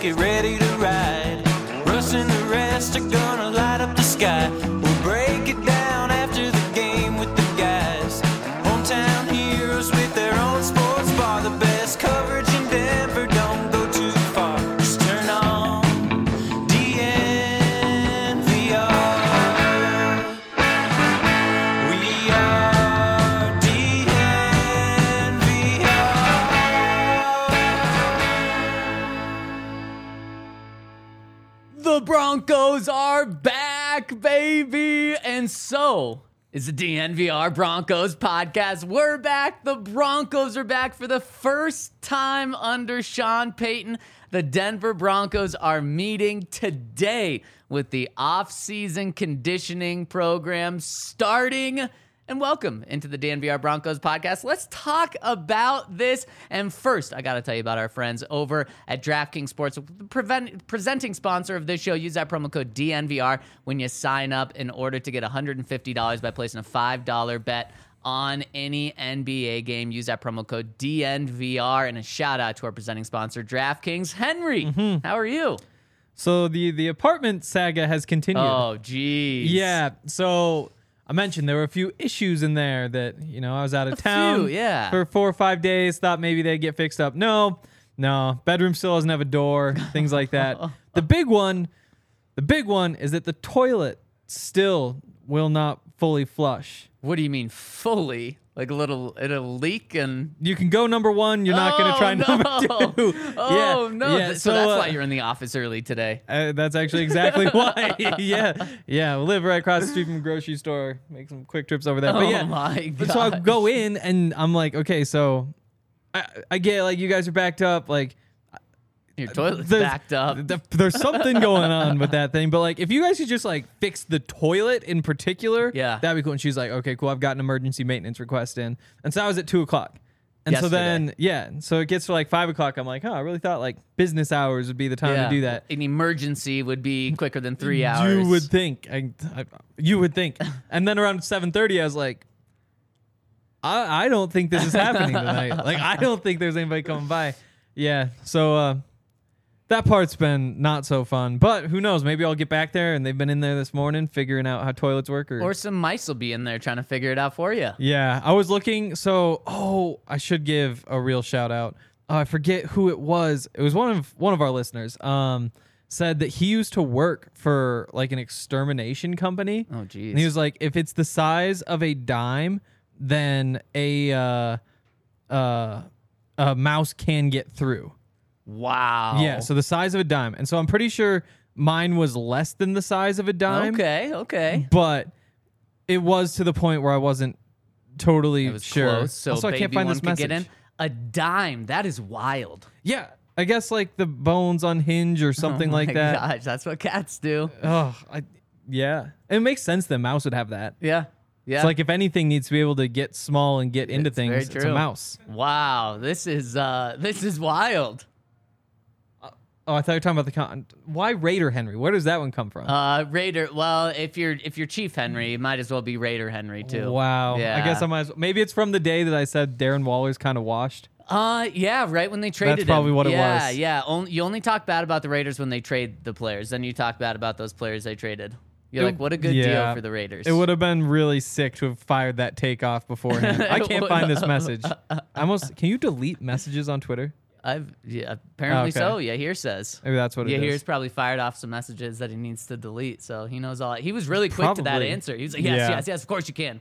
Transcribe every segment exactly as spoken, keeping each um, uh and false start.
get ready to ride. Russ and the rest are gonna light up the sky. We'll break it down after the game with the guys. Hometown heroes with their own sports bar. The best coverage in Denver, don't go too far. Just turn on D N V R. We are D N V R. The Broncos are back, baby. And so is the D N V R Broncos podcast. We're back. The Broncos are back for the first time under Sean Payton. The Denver Broncos are meeting today with the off-season conditioning program starting. And welcome into the D N V R Broncos podcast. Let's talk about this. And first, I got to tell you about our friends over at DraftKings Sports, the prevent, presenting sponsor of this show. Use that promo code D N V R when you sign up in order to get one hundred fifty dollars by placing a five dollar bet on any N B A game. Use that promo code D N V R. And a shout out to our presenting sponsor, DraftKings. Henry, mm-hmm. How are you? So the, the apartment saga has continued. Oh, geez. Yeah, so I mentioned there were a few issues in there that, you know, I was out of A town few, yeah. for four or five days, thought maybe they'd get fixed up. No, no, bedroom still doesn't have a door, things like that. The big one, the big one is that the toilet still will not fully flush. What do you mean fully? Like a little, it'll leak and... You can go number one, you're not going to try no. number two. Oh, yeah, no. Yeah, so, so that's uh, why you're in the office early today. Uh, that's actually exactly why. yeah, yeah. We live right across the street from a grocery store. Make some quick trips over there. But Oh yeah, my but so I gosh. go in and I'm like, okay, so I, I get like you guys are backed up. Like Your toilet's there's- backed up. th- there's something going on with that thing. But like, if you guys could just like fix the toilet in particular, Yeah. that'd be cool. And she's like, okay, cool. I've got an emergency maintenance request in. And so I was at two o'clock. And so Yesterday. then, yeah, so it gets to like five o'clock. I'm like, oh, I really thought like business hours would be the time Yeah. to do that. An emergency would be quicker than three hours. You would think. I, I, you would think. And then around seven thirty, I was like, I, I don't think this is happening tonight. Like, I don't think there's anybody coming by. Yeah. So uh, that part's been not so fun. But who knows? Maybe I'll get back there, and they've been in there this morning figuring out how toilets work. Or, Or some mice will be in there trying to figure it out for you. yeah, I was looking. So, oh, I should give a real shout out. Oh, I forget who it was. It was one of one of our listeners. Um, said that he used to work for like an extermination company. Oh, geez. And he was like, if it's the size of a dime, then a uh, uh, a mouse can get through. Wow. Yeah, so the size of a dime. And so I'm pretty sure mine was less than the size of a dime. Okay, okay. But it was to the point where I wasn't totally It was sure. close, so also, I baby can't find one this could message. get in. A dime. That is wild. Yeah, I guess like the bones unhinge or something oh like my that. Gosh, that's what cats do. Oh, I, yeah. It makes sense that a mouse would have that. Yeah. Yeah. It's like if anything needs to be able to get small and get into It's very things, it's a true. mouse. Wow. This is uh this is wild. Oh, I thought you were talking about the con. Why Raider Henry? Where does that one come from? Uh Raider, well, if you're if you're Chief Henry, it might as well be Raider Henry too. Wow. Yeah. I guess I might as well. Maybe it's from the day that I said Darren Waller's kind of washed. Uh, yeah, right when they traded him. probably what it yeah, was. Yeah, only, you only talk bad about the Raiders when they trade the players. Then you talk bad about those players they traded. You're It- like, what a good yeah. deal for the Raiders. It would have been really sick to have fired that takeoff beforehand. I It can't would find this message. I almost can you delete messages on Twitter? I've yeah, apparently Okay. so. Yeah, here says. Maybe that's what it Yeah, is. here's probably fired off some messages that he needs to delete. So he knows all. He was really quick to that Probably. answer. He was like, yes, Yeah. yes, yes, of course you can.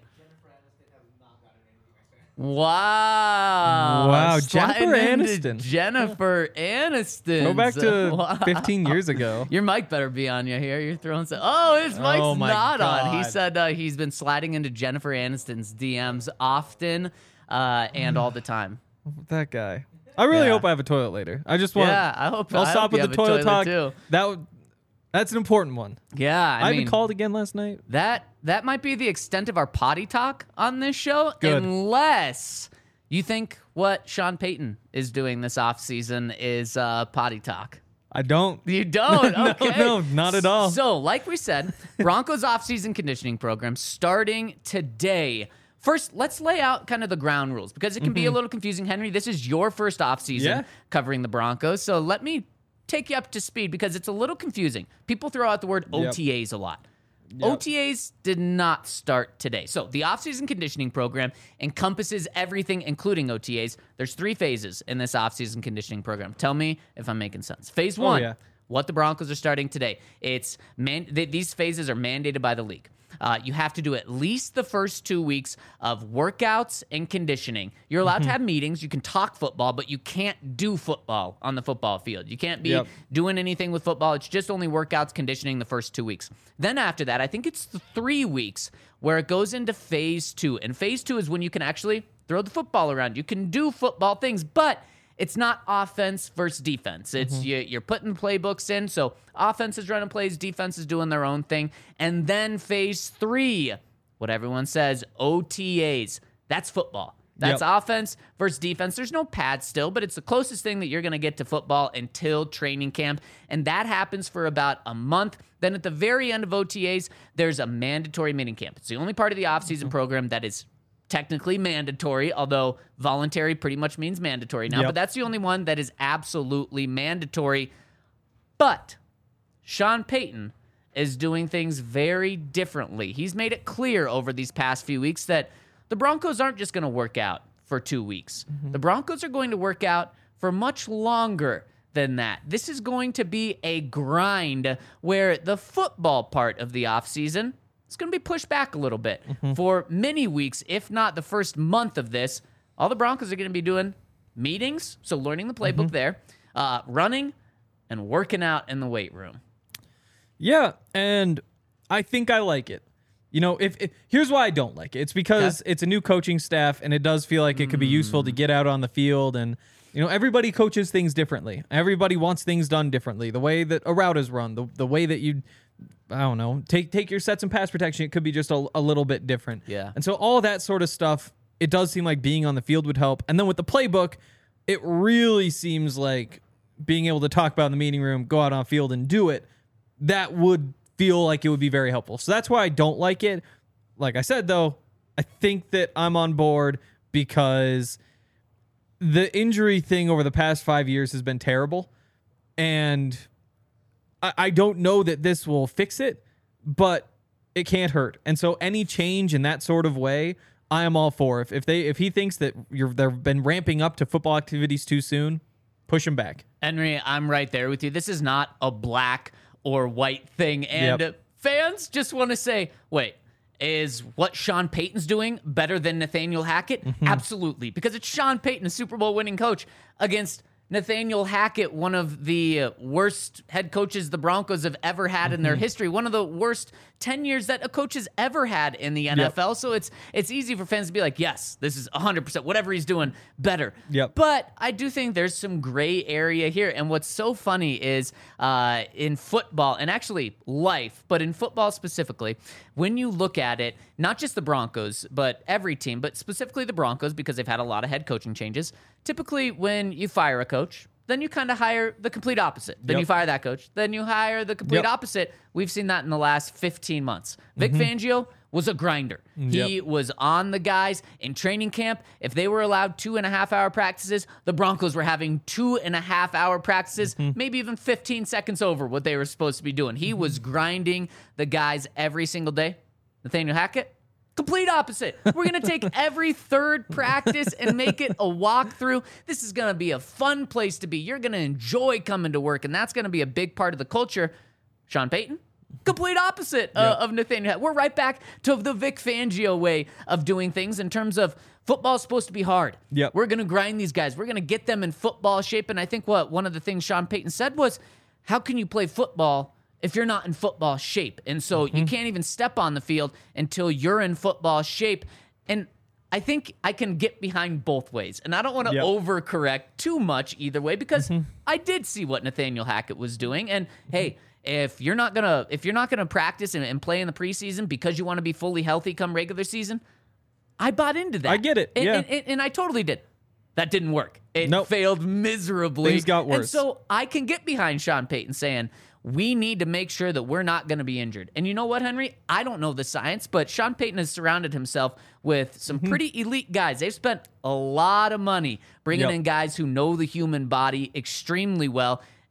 Wow. Wow, Sliding Jennifer into Aniston. Jennifer Aniston. Go back to Wow. fifteen years ago. Your mic better be on you here. You're throwing some. Oh, his mic's Oh my not on. He God. said uh, he's been sliding into Jennifer Aniston's D Ms often uh, and all the time. That guy. I really Yeah. hope I have a toilet later. I just want. Yeah, I hope. I'll I stop hope you with the have a toilet, talk. too. That would. That's an important one. Yeah, I, I, mean, even called again last night. that that might be the extent of our potty talk on this show, Good. unless you think what Sean Payton is doing this offseason is uh, potty talk. I don't. You don't? No, Okay. no, not at all. So, like we said, Broncos offseason conditioning program starting today. First, let's lay out kind of the ground rules because it can be a little confusing. Henry, this is your first offseason Yeah. covering the Broncos. So let me take you up to speed because it's a little confusing. People throw out the word O T As a lot. Yep. O T As did not start today. So the offseason conditioning program encompasses everything, including O T As. There's three phases in this offseason conditioning program. Tell me if I'm making sense. Phase one, oh, yeah. what the Broncos are starting today. It's man- th- These phases are mandated by the league. Uh, you have to do at least the first two weeks of workouts and conditioning. You're allowed mm-hmm. to have meetings. You can talk football, but you can't do football on the football field. You can't be yep. doing anything with football. It's just only workouts, conditioning the first two weeks. Then after that, I think it's the three weeks where it goes into phase two. And phase two is when you can actually throw the football around. You can do football things, but it's not offense versus defense. It's mm-hmm. you, you're putting playbooks in. So offense is running plays, defense is doing their own thing. And then phase three, what everyone says, O T As. That's football. That's yep. offense versus defense. There's no pads still, but it's the closest thing that you're going to get to football until training camp. And that happens for about a month. Then at the very end of O T As, there's a mandatory mini camp. It's the only part of the offseason mm-hmm. program that is technically mandatory, although voluntary pretty much means mandatory now, yep. but that's the only one that is absolutely mandatory. But Sean Payton is doing things very differently. He's made it clear over these past few weeks that the Broncos aren't just going to work out for two weeks. Mm-hmm. The Broncos are going to work out for much longer than that. This is going to be a grind where the football part of the offseason it's going to be pushed back a little bit. Mm-hmm. For many weeks, if not the first month of this, all the Broncos are going to be doing meetings, so learning the playbook mm-hmm. there, uh, running, and working out in the weight room. Yeah, and I think I like it. You know, if, if here's why I don't like it. It's because okay. it's a new coaching staff, and it does feel like it could be useful to get out on the field. And, you know, everybody coaches things differently. Everybody wants things done differently. The way that a route is run, the, the way that you... I don't know, take take your sets and pass protection. It could be just a, a little bit different. Yeah. And so all that sort of stuff, it does seem like being on the field would help. And then with the playbook, it really seems like being able to talk about in the meeting room, go out on field and do it, that would feel like it would be very helpful. So that's why I don't like it. Like I said, though, I think that I'm on board because the injury thing over the past five years has been terrible. And I don't know that this will fix it, but it can't hurt. And so any change in that sort of way, I am all for. If if they if he thinks that you're they've been ramping up to football activities too soon, push him back. Henry, I'm right there with you. This is not a black or white thing. And yep. fans just want to say, wait, is what Sean Payton's doing better than Nathaniel Hackett? Mm-hmm. Absolutely, because it's Sean Payton, a Super Bowl winning coach, against Nathaniel Hackett, one of the worst head coaches the Broncos have ever had mm-hmm. in their history, one of the worst tenures that a coach has ever had in the N F L. Yep. So it's it's easy for fans to be like, yes, this is one hundred percent, whatever he's doing, better. Yep. But I do think there's some gray area here. And what's so funny is uh, in football, and actually life, but in football specifically, when you look at it, not just the Broncos, but every team, but specifically the Broncos, because they've had a lot of head coaching changes, typically when you fire a coach, then you kind of hire the complete opposite. Then yep. you fire that coach. Then you hire the complete yep. opposite. We've seen that in the last fifteen months. Vic mm-hmm. Fangio was a grinder. Yep. He was on the guys in training camp. If they were allowed two and a half hour practices, the Broncos were having two and a half hour practices, mm-hmm. maybe even fifteen seconds over what they were supposed to be doing. He mm-hmm. was grinding the guys every single day. Nathaniel Hackett, complete opposite. We're going to take every third practice and make it a walkthrough. This is going to be a fun place to be. You're going to enjoy coming to work, and that's going to be a big part of the culture. Sean Payton, complete opposite uh, yep. of Nathaniel. We're right back to the Vic Fangio way of doing things in terms of football's supposed to be hard. Yep. We're going to grind these guys. We're going to get them in football shape. And I think what one of the things Sean Payton said was, how can you play football if you're not in football shape? And so mm-hmm. you can't even step on the field until you're in football shape. And I think I can get behind both ways. And I don't want to yep. overcorrect too much either way, because mm-hmm. I did see what Nathaniel Hackett was doing. And hey, if you're not gonna if you're not gonna practice and, and play in the preseason because you want to be fully healthy come regular season, I bought into that. I get it. And, yeah. and, and, and I totally did. That didn't work. It nope. failed miserably. Things got worse. And so I can get behind Sean Payton saying, we need to make sure that we're not going to be injured. And you know what, Henry? I don't know the science, but Sean Payton has surrounded himself with some mm-hmm. pretty elite guys. They've spent a lot of money bringing yep. in guys who know the human body extremely well.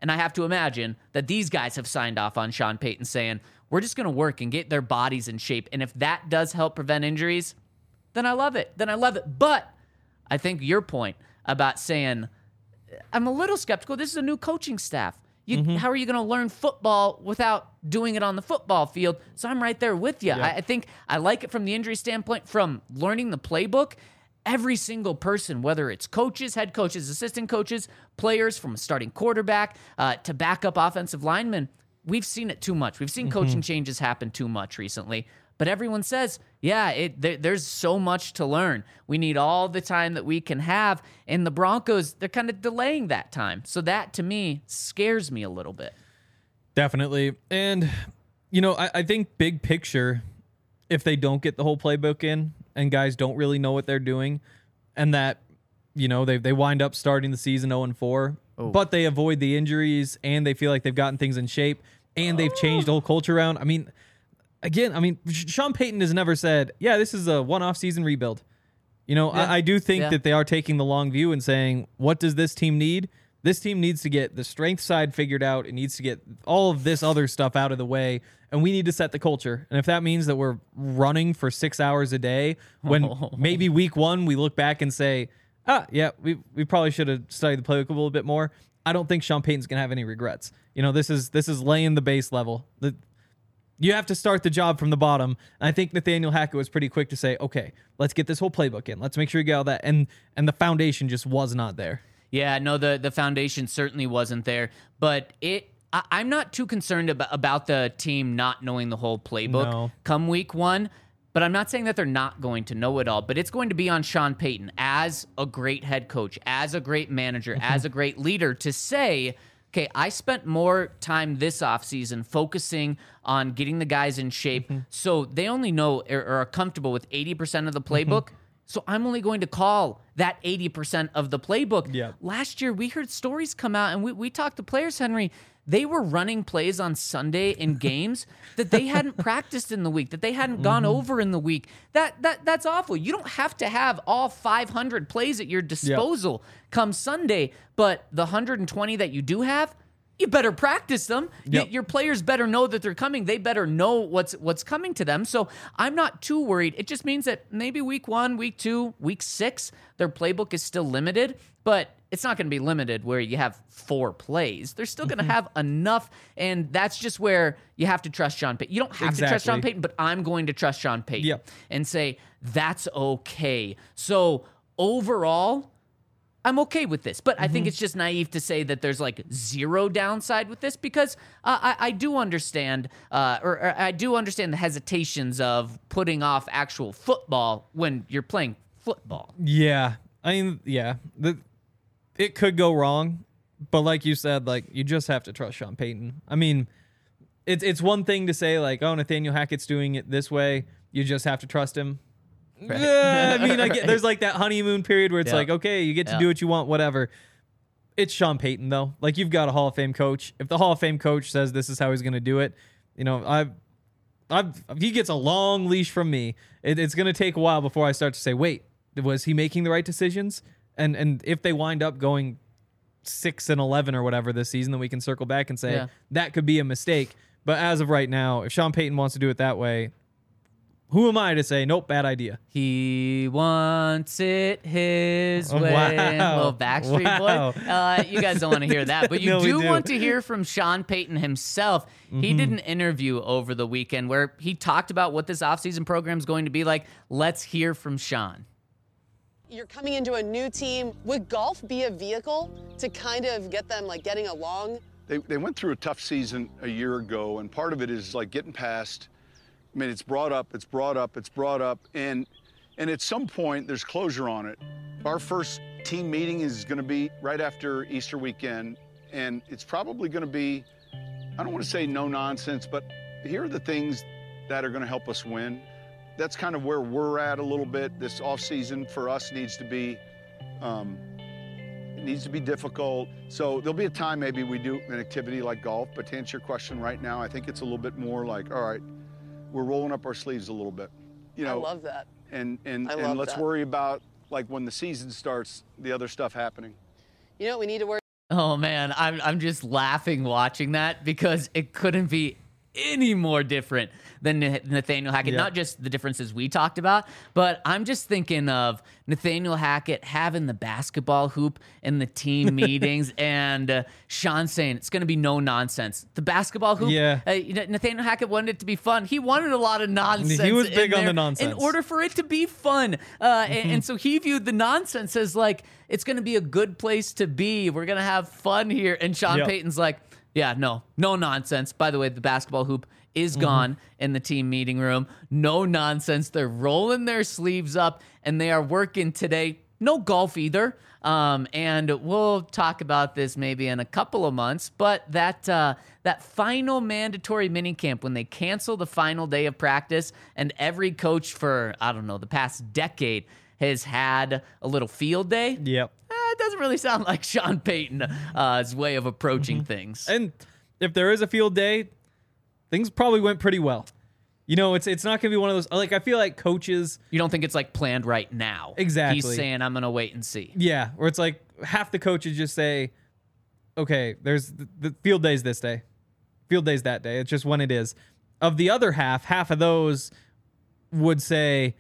And I have to imagine that these guys have signed off on Sean Payton saying, we're just going to work and get their bodies in shape. And if that does help prevent injuries, then I love it. Then I love it. But I think your point about saying, I'm a little skeptical. This is a new coaching staff. You, mm-hmm. How are you going to learn football without doing it on the football field? So I'm right there with you. Yeah. I, I think I like it from the injury standpoint, from learning the playbook. Every single person, whether it's coaches, head coaches, assistant coaches, players, from a starting quarterback uh, to backup offensive linemen, we've seen it too much. We've seen mm-hmm. coaching changes happen too much recently. But everyone says, yeah, it, there, there's so much to learn. We need all the time that we can have. And the Broncos, they're kind of delaying that time. So that, to me, scares me a little bit. Definitely. And, you know, I, I think big picture, if they don't get the whole playbook in and guys don't really know what they're doing, and that, you know, they, they wind up starting the season oh and four, oh. but they avoid the injuries and they feel like they've gotten things in shape and they've changed the whole culture around. I mean... Again, I mean, Sean Payton has never said, yeah, this is a one-off season rebuild. You know, yeah. I, I do think yeah. that they are taking the long view and saying, what does this team need? This team needs to get the strength side figured out. It needs to get all of this other stuff out of the way, and we need to set the culture. And if that means that we're running for six hours a day, when oh. maybe week one we look back and say, ah, yeah, we we probably should have studied the playbook a little bit more, I don't think Sean Payton's going to have any regrets. You know, this is this is laying the base level. The You have to start the job from the bottom. And I think Nathaniel Hackett was pretty quick to say, okay, let's get this whole playbook in. Let's make sure we get all that. And and the foundation just was not there. Yeah, no, the, the foundation certainly wasn't there. But it, I, I'm not too concerned about, about the team not knowing the whole playbook no. come week one. But I'm not saying that they're not going to know it all. But it's going to be on Sean Payton as a great head coach, as a great manager, as a great leader to say, okay, I spent more time this offseason focusing on getting the guys in shape mm-hmm. so they only know or, or are comfortable with eighty percent of the playbook. Mm-hmm. So I'm only going to call that eighty percent of the playbook. Yeah. Last year, we heard stories come out, and we, we talked to players, Henry. They were running plays on Sunday in games that they hadn't practiced in the week, that they hadn't gone mm-hmm. over in the week. That that That's awful. You don't have to have all five hundred plays at your disposal yep. come Sunday, but the one hundred twenty that you do have, you better practice them. Yep. Y- your players better know that they're coming. They better know what's what's coming to them. So I'm not too worried. It just means that maybe week one, week two, week six, their playbook is still limited, but it's not going to be limited where you have four plays. They're still going to have enough, and that's just where you have to trust Sean Payton. You don't have exactly. to trust Sean Payton, but I'm going to trust Sean Payton yep. and say, that's okay. So overall, I'm okay with this, but mm-hmm. I think it's just naive to say that there's like zero downside with this because uh, I, I do understand, uh, or, or I do understand the hesitations of putting off actual football when you're playing football. Yeah, I mean, yeah, the, it could go wrong, but like you said, like you just have to trust Sean Payton. I mean, it's it's one thing to say like, oh, Nathaniel Hackett's doing it this way. You just have to trust him. Right. Yeah, I mean, I get, right. there's like that honeymoon period where it's yep. like, okay, you get to yep. do what you want, whatever. It's Sean Payton, though. Like, you've got a Hall of Fame coach. If the Hall of Fame coach says this is how he's going to do it, you know, I've, I've, he gets a long leash from me. It, it's going to take a while before I start to say, wait, was he making the right decisions? And and if they wind up going six and eleven or whatever this season, then we can circle back and say yeah. that could be a mistake. But as of right now, if Sean Payton wants to do it that way, who am I to say, nope, bad idea? He wants it his Oh, way. wow. Little Backstreet Wow. Boy. Uh, you guys don't want to hear that, but you No, we do, do. want to hear from Sean Payton himself. Mm-hmm. He did an interview over the weekend where he talked about what this offseason program is going to be like. Let's hear from Sean. You're coming into a new team. Would golf be a vehicle to kind of get them like getting along? They, they went through a tough season a year ago, and part of it is like getting past. I mean, it's brought up, it's brought up, it's brought up, and and at some point there's closure on it. Our first team meeting is going to be right after Easter weekend, and it's probably going to be, I don't want to say no nonsense, but here are the things that are going to help us win. That's kind of where we're at a little bit. This off season for us needs to be, um, it needs to be difficult. So there'll be a time maybe we do an activity like golf, but to answer your question right now, I think it's a little bit more like, all right, we're rolling up our sleeves a little bit. You know, I love that. And and, I love and let's that. worry about, like, when the season starts, the other stuff happening. You know what we need to worry Oh man, I'm I'm just laughing watching that because it couldn't be any more different than Nathaniel Hackett. Yeah. Not just the differences we talked about, but I'm just thinking of Nathaniel Hackett having the basketball hoop in the team meetings and uh, Sean saying it's going to be no nonsense. The basketball hoop, Yeah. uh, Nathaniel Hackett wanted it to be fun. He wanted a lot of nonsense. He was in big on there the nonsense. in order for it to be fun. Uh, Mm-hmm. and, and so he viewed the nonsense as like, it's going to be a good place to be. We're going to have fun here. And Sean Yep. Payton's like, yeah, no, no nonsense. By the way, the basketball hoop is Mm-hmm. gone in the team meeting room. No nonsense. They're rolling their sleeves up and they are working today. No golf either. Um, and we'll talk about this maybe in a couple of months. But that uh, that final mandatory minicamp, when they cancel the final day of practice, and every coach for, I don't know, the past decade has had a little field day. Yep. Eh, it doesn't really sound like Sean Payton's uh, way of approaching Mm-hmm. things. And if there is a field day, things probably went pretty well. You know, it's it's not going to be one of those, like, I feel like coaches, You don't think it's like planned right now. Exactly. He's saying, I'm going to wait and see. yeah, where it's like half the coaches just say, okay, there's the, the field day's this day, field day's that day. It's just when it is. Of the other half, half of those would say,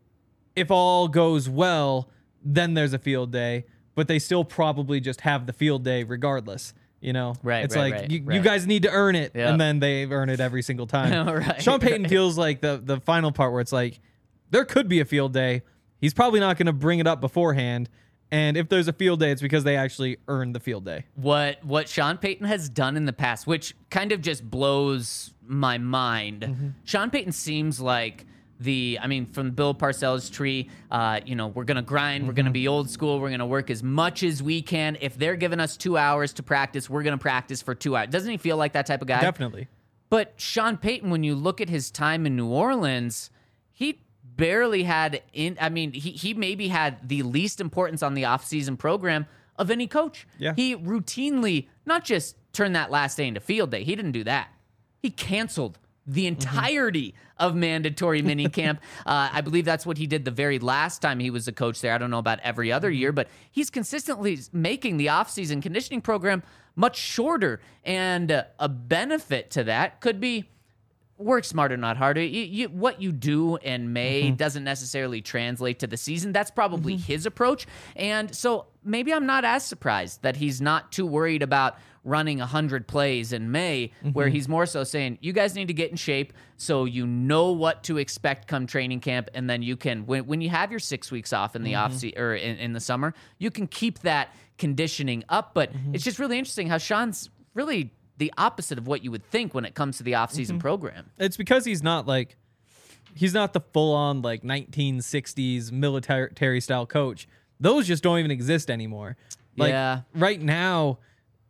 if all goes well, then there's a field day, but they still probably just have the field day regardless. You know, Right, It's right, like right, you, right. you guys need to earn it, Yep. and then they earn it every single time. Right, Sean Payton right. feels like the the final part where it's like there could be a field day. He's probably not going to bring it up beforehand, and if there's a field day, it's because they actually earned the field day. What what Sean Payton has done in the past, which kind of just blows my mind. Mm-hmm. Sean Payton seems like the, I mean, from Bill Parcells' tree, uh, you know, we're going to grind, we're going Mm-hmm. to be old school, we're going to work as much as we can. If they're giving us two hours to practice, we're going to practice for two hours. Doesn't he feel like that type of guy? Definitely. But Sean Payton, when you look at his time in New Orleans, he barely had in I mean, he he maybe had the least importance on the offseason program of any coach. Yeah. He routinely not just turned that last day into field day. He didn't do that. He canceled the entirety of mandatory minicamp. uh, I believe that's what he did the very last time he was a coach there. I don't know about every other year, but he's consistently making the offseason conditioning program much shorter. And uh, a benefit to that could be work smarter, not harder. You, you, what you do in May Mm-hmm. doesn't necessarily translate to the season. That's probably his approach. And so maybe I'm not as surprised that he's not too worried about running one hundred plays in May, Mm-hmm. where he's more so saying, you guys need to get in shape so you know what to expect come training camp. And then you can, when, when you have your six weeks off in the Mm-hmm. off se- or in, in the summer, you can keep that conditioning up. But Mm-hmm. it's just really interesting how Sean's really the opposite of what you would think when it comes to the offseason Mm-hmm. program. It's because he's not like he's not the full on like nineteen sixties military style coach. Those just don't even exist anymore. Like Yeah. right now,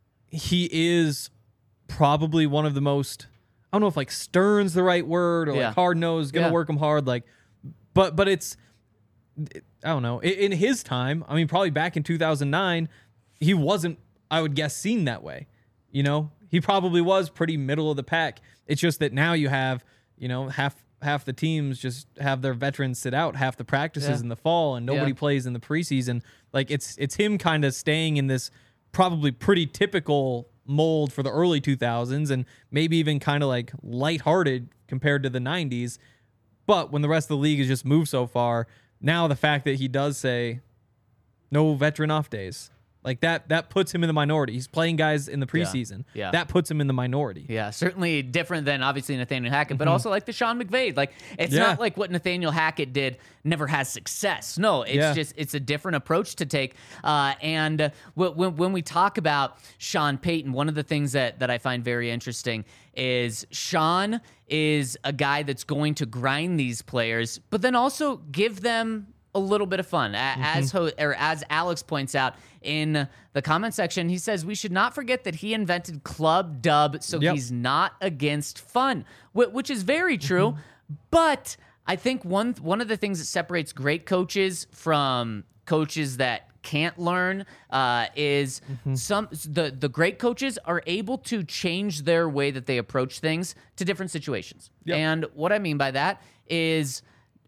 he is probably one of the most, I don't know if like stern's the right word or Yeah. like hard nosed, gonna Yeah. work him hard. Like, but but it's I don't know. In, in his time, I mean, probably back in two thousand nine, he wasn't, I would guess, seen that way. You know, he probably was pretty middle of the pack. It's just that now you have, you know, half half the teams just have their veterans sit out half the practices Yeah. in the fall, and nobody Yeah. plays in the preseason. Like it's it's him kind of staying in this probably pretty typical mold for the early two thousands, and maybe even kind of like lighthearted compared to the nineties. But when the rest of the league has just moved so far, now the fact that he does say no veteran off days, like that, that puts him in the minority. He's playing guys in the preseason. Yeah. That puts him in the minority. Yeah, certainly different than obviously Nathaniel Hackett, but also like the Sean McVay. Like it's Yeah. not like what Nathaniel Hackett did never has success. No, it's Yeah. just it's a different approach to take. Uh, and uh, wh- when when we talk about Sean Payton, one of the things that that I find very interesting is Sean is a guy that's going to grind these players, but then also give them a little bit of fun. A- As ho- or as Alex points out in the comment section, he says we should not forget that he invented Club Dub, so Yep. he's not against fun, wh- which is very true. But I think one one of the things that separates great coaches from coaches that can't learn uh, is some the the great coaches are able to change their way that they approach things to different situations. Yep. And what I mean by that is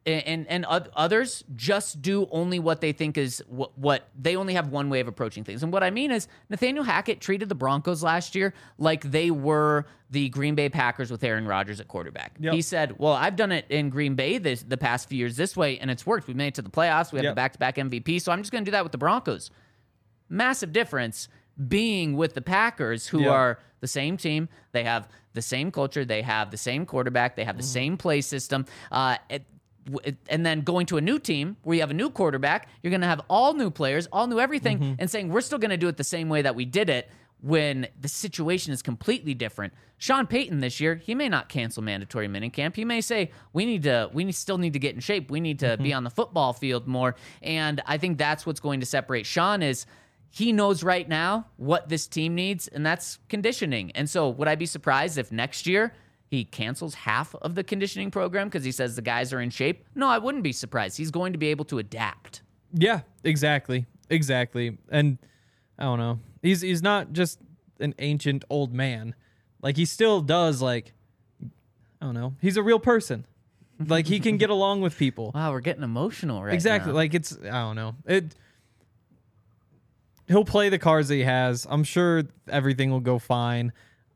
and and others just do only what they think is what, what they only have one way of approaching things. And what I mean is Nathaniel Hackett treated the Broncos last year like they were the Green Bay Packers with Aaron Rodgers at quarterback. Yep. He said, well, I've done it in Green Bay this, the past few years this way, and it's worked. We made it to the playoffs. We have Yep. the back-to-back M V P, so I'm just going to do that with the Broncos. Massive difference being with the Packers, who Yep. are the same team. They have the same culture. They have the same quarterback. They have the same play system. Uh, it, and then going to a new team where you have a new quarterback, you're going to have all new players, all new everything, Mm-hmm. and saying we're still going to do it the same way that we did it when the situation is completely different. Sean Payton this year, he may not cancel mandatory minicamp. He may say we need to, we need, still need to get in shape. We need to Mm-hmm. be on the football field more. And I think that's what's going to separate Sean is he knows right now what this team needs, and that's conditioning. And so would I be surprised if next year he cancels half of the conditioning program because he says the guys are in shape? No, I wouldn't be surprised. He's going to be able to adapt. Yeah, exactly. Exactly. And I don't know. He's he's not just an ancient old man. Like he still does like I don't know. He's a real person. Like he can get along with people. Wow, we're getting emotional right Exactly. now. Like it's I don't know. It he'll play the cards that he has. I'm sure everything will go fine.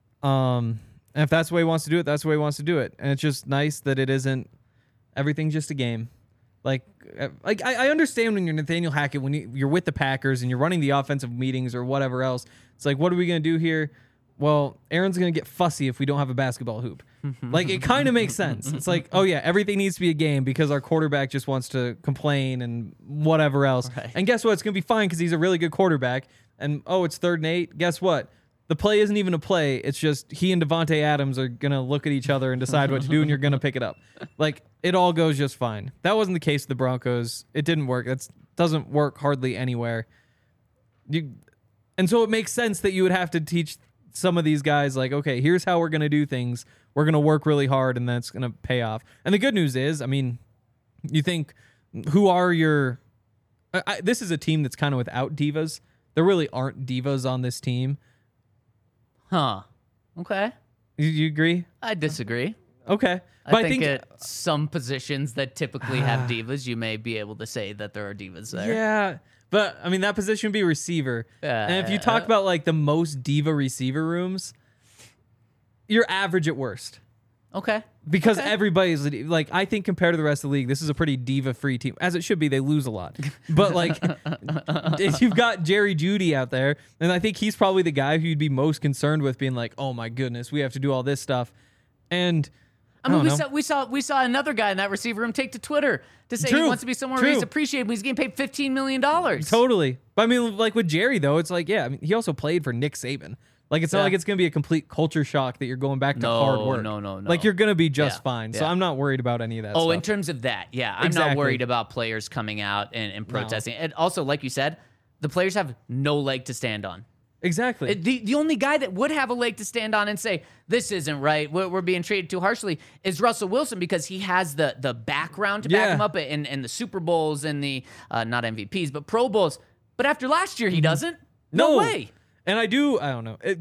Um And if that's the way he wants to do it, that's the way he wants to do it. And it's just nice that it isn't everything's just a game. Like, uh, like I, I understand when you're Nathaniel Hackett, when you, you're with the Packers and you're running the offensive meetings or whatever else. It's like, what are we going to do here? Well, Aaron's going to get fussy if we don't have a basketball hoop. Like, it kind of makes sense. It's like, oh, yeah, everything needs to be a game because our quarterback just wants to complain and whatever else. Right. And guess what? It's going to be fine because he's a really good quarterback. And, oh, it's third and eight. Guess what? The play isn't even a play. It's just he and Devontae Adams are going to look at each other and decide what to do, and you're going to pick it up. Like, it all goes just fine. That wasn't the case with the Broncos. It didn't work. That doesn't work hardly anywhere. You, and so it makes sense that you would have to teach some of these guys, like, okay, here's how we're going to do things. We're going to work really hard, and that's going to pay off. And the good news is, I mean, you think, who are your... I, I, this is a team that's kind of without divas. There really aren't divas on this team. Huh. Okay. You, you agree? I disagree. Okay. I But think, at some positions that typically have divas, you may be able to say that there are divas there. Yeah. But, I mean, that position would be receiver. and if you talk Uh, about, like, the most diva receiver rooms, you're average at worst. Okay. Because Okay. everybody's, like, I think compared to the rest of the league, this is a pretty diva-free team. As it should be, they lose a lot. But, like, if you've got Jerry Jeudy out there, and I think he's probably the guy who you'd be most concerned with being like, oh, my goodness, we have to do all this stuff. And... I mean, don't we know. saw we saw we saw another guy in that receiver room take to Twitter to say True. he wants to be somewhere True. where he's appreciated when he's getting paid fifteen million dollars. Totally. But I mean, like with Jerry, though, it's like, yeah, I mean, he also played for Nick Saban. Like, it's not Yeah. like it's going to be a complete culture shock that you're going back to No, hard work. no, no, no. Like, you're going to be just Yeah, fine. So yeah. I'm not worried about any of that Oh, stuff. in terms of that, yeah, I'm Exactly. not worried about players coming out and, and protesting. And also, like you said, the players have no leg to stand on. Exactly. It- The, the only guy that would have a leg to stand on and say, this isn't right, we're, we're being treated too harshly, is Russell Wilson, because he has the the background to back Yeah. him up in, in the Super Bowls and the, uh, not M V Ps, but Pro Bowls. But after last year, he doesn't. No, no way. And I do, I don't know. It,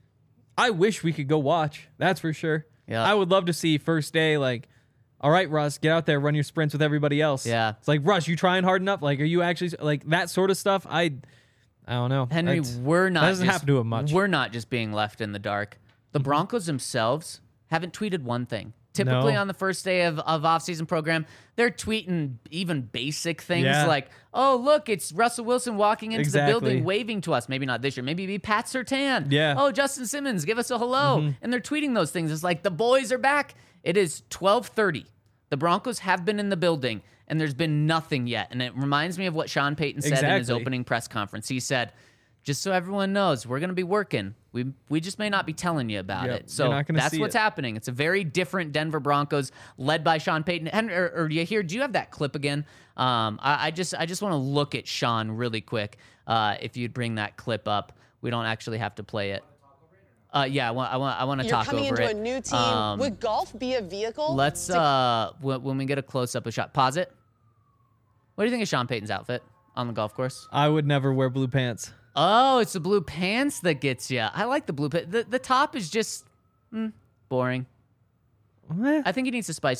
I wish we could go watch. That's for sure. Yeah. I would love to see first day, like, all right, Russ, get out there, run your sprints with everybody else. Yeah. It's like, Russ, you trying hard enough? Like, are you actually, like, that sort of stuff? I, I don't know. Henry, That's- we're not That doesn't just, happen to him much. We're not just being left in the dark. The Broncos themselves haven't tweeted one thing. Typically No. on the first day of, of off-season program, they're tweeting even basic things Yeah. like, oh, look, it's Russell Wilson walking into Exactly. the building waving to us. Maybe not this year. Maybe it'd be Pat Surtain. Yeah. Oh, Justin Simmons, give us a hello. And they're tweeting those things. It's like, the boys are back. It is twelve thirty. The Broncos have been in the building, and there's been nothing yet. And it reminds me of what Sean Payton said in his Exactly. opening press conference. He said, just so everyone knows, we're going to be working. We we just may not be telling you about Yep, it. So you're not gonna that's see what's it. happening. It's a very different Denver Broncos led by Sean Payton. And, or, or do you hear? Do you have that clip again? Um, I, I just I just want to look at Sean really quick. Uh, if you'd bring that clip up, we don't actually have to play it. Uh, yeah, I want I want I want to You're talk coming over into it. a new team. Um, Would golf be a vehicle? Let's to- uh when, when we get a close up, a shot. Pause it. What do you think of Sean Payton's outfit on the golf course? I would never wear blue pants. Oh, it's the blue pants that gets you. I like the blue pants. The, the top is just mm, boring. Eh, I think he needs to spice it up.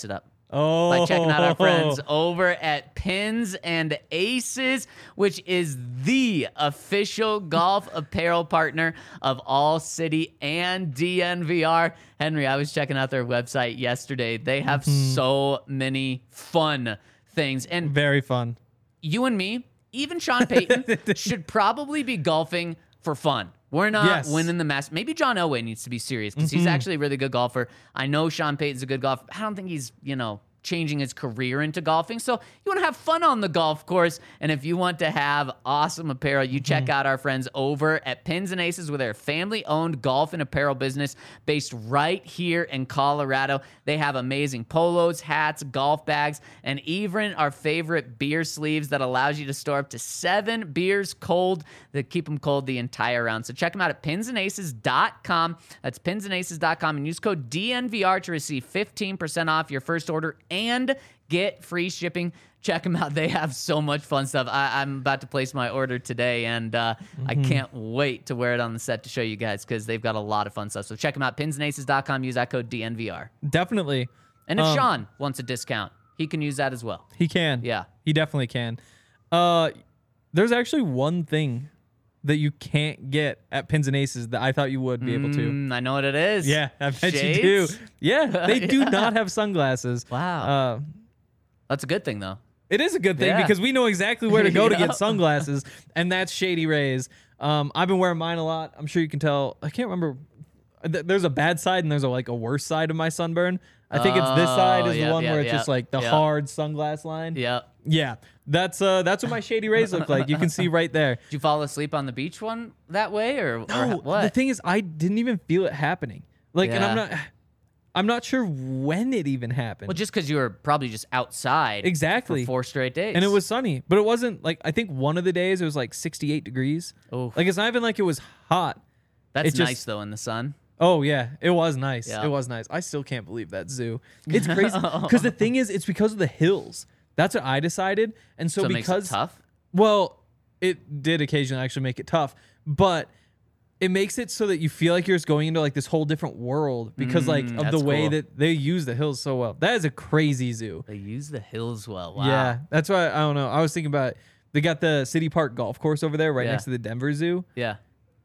Oh, by checking out our friends over at Pins and Aces, which is the official golf apparel partner of All City and D N V R. Henry, I was checking out their website yesterday. They have Mm-hmm. so many fun things. And Very fun. you and me, even Sean Payton, should probably be golfing for fun. We're not Yes. winning the Masters. Maybe John Elway needs to be serious because he's actually a really good golfer. I know Sean Payton's a good golfer. I don't think he's, you know, changing his career into golfing. So you want to have fun on the golf course. And if you want to have awesome apparel, you check out our friends over at Pins and Aces with their family-owned golf and apparel business based right here in Colorado. They have amazing polos, hats, golf bags, and even our favorite beer sleeves that allows you to store up to seven beers cold that keep them cold the entire round. So check them out at pins and aces dot com. That's pins and aces dot com and use code D N V R to receive fifteen percent off your first order and get free shipping. Check them out. They have so much fun stuff. I, I'm about to place my order today, and uh, I can't wait to wear it on the set to show you guys because they've got a lot of fun stuff. So check them out, pins and aces dot com. Use that code D N V R. Definitely. And if Um, Sean wants a discount, he can use that as well. He can. Yeah. He definitely can. Uh, there's actually one thing that you can't get at Pins and Aces that I thought you would be able to. Mm, I know what it is. Yeah, I bet Shades? you do. Yeah, they do not have sunglasses. Wow. Uh, That's a good thing, though. It is a good thing Yeah. because we know exactly where to go to Yeah. get sunglasses, and that's Shady Rays. Um, I've been wearing mine a lot. I'm sure you can tell. I can't remember. Th- There's a bad side and there's a, like a worse side of my sunburn. I think it's this side Oh, is yep, the one yep, where it's yep, just like the yep. hard sunglass line. Yep. Yeah, that's uh, that's what my Shady Rays look like. You can see right there. Did you fall asleep on the beach one that way, or, or No, what? the thing is, I didn't even feel it happening. Like, and I'm Yeah. not, I'm not sure when it even happened. Well, just because you were probably just outside Exactly. for four straight days. And it was sunny, but it wasn't like, I think one of the days it was like sixty-eight degrees. Oof. Like, it's not even like it was hot. That's it just- nice, though, in the sun. Oh yeah, it was nice. Yeah. It was nice. I still can't believe that zoo. It's crazy because the thing is, it's because of the hills. That's what I decided, and so, So it makes because it tough? well, it did occasionally actually make it tough, but it makes it so that you feel like you're just going into like this whole different world because like Mm, of the that's way cool. that they use the hills so well. That is a crazy zoo. They use the hills well. Wow. Yeah, that's why I don't know. I was thinking about they got the City Park golf course over there right Yeah. next to the Denver Zoo. Yeah.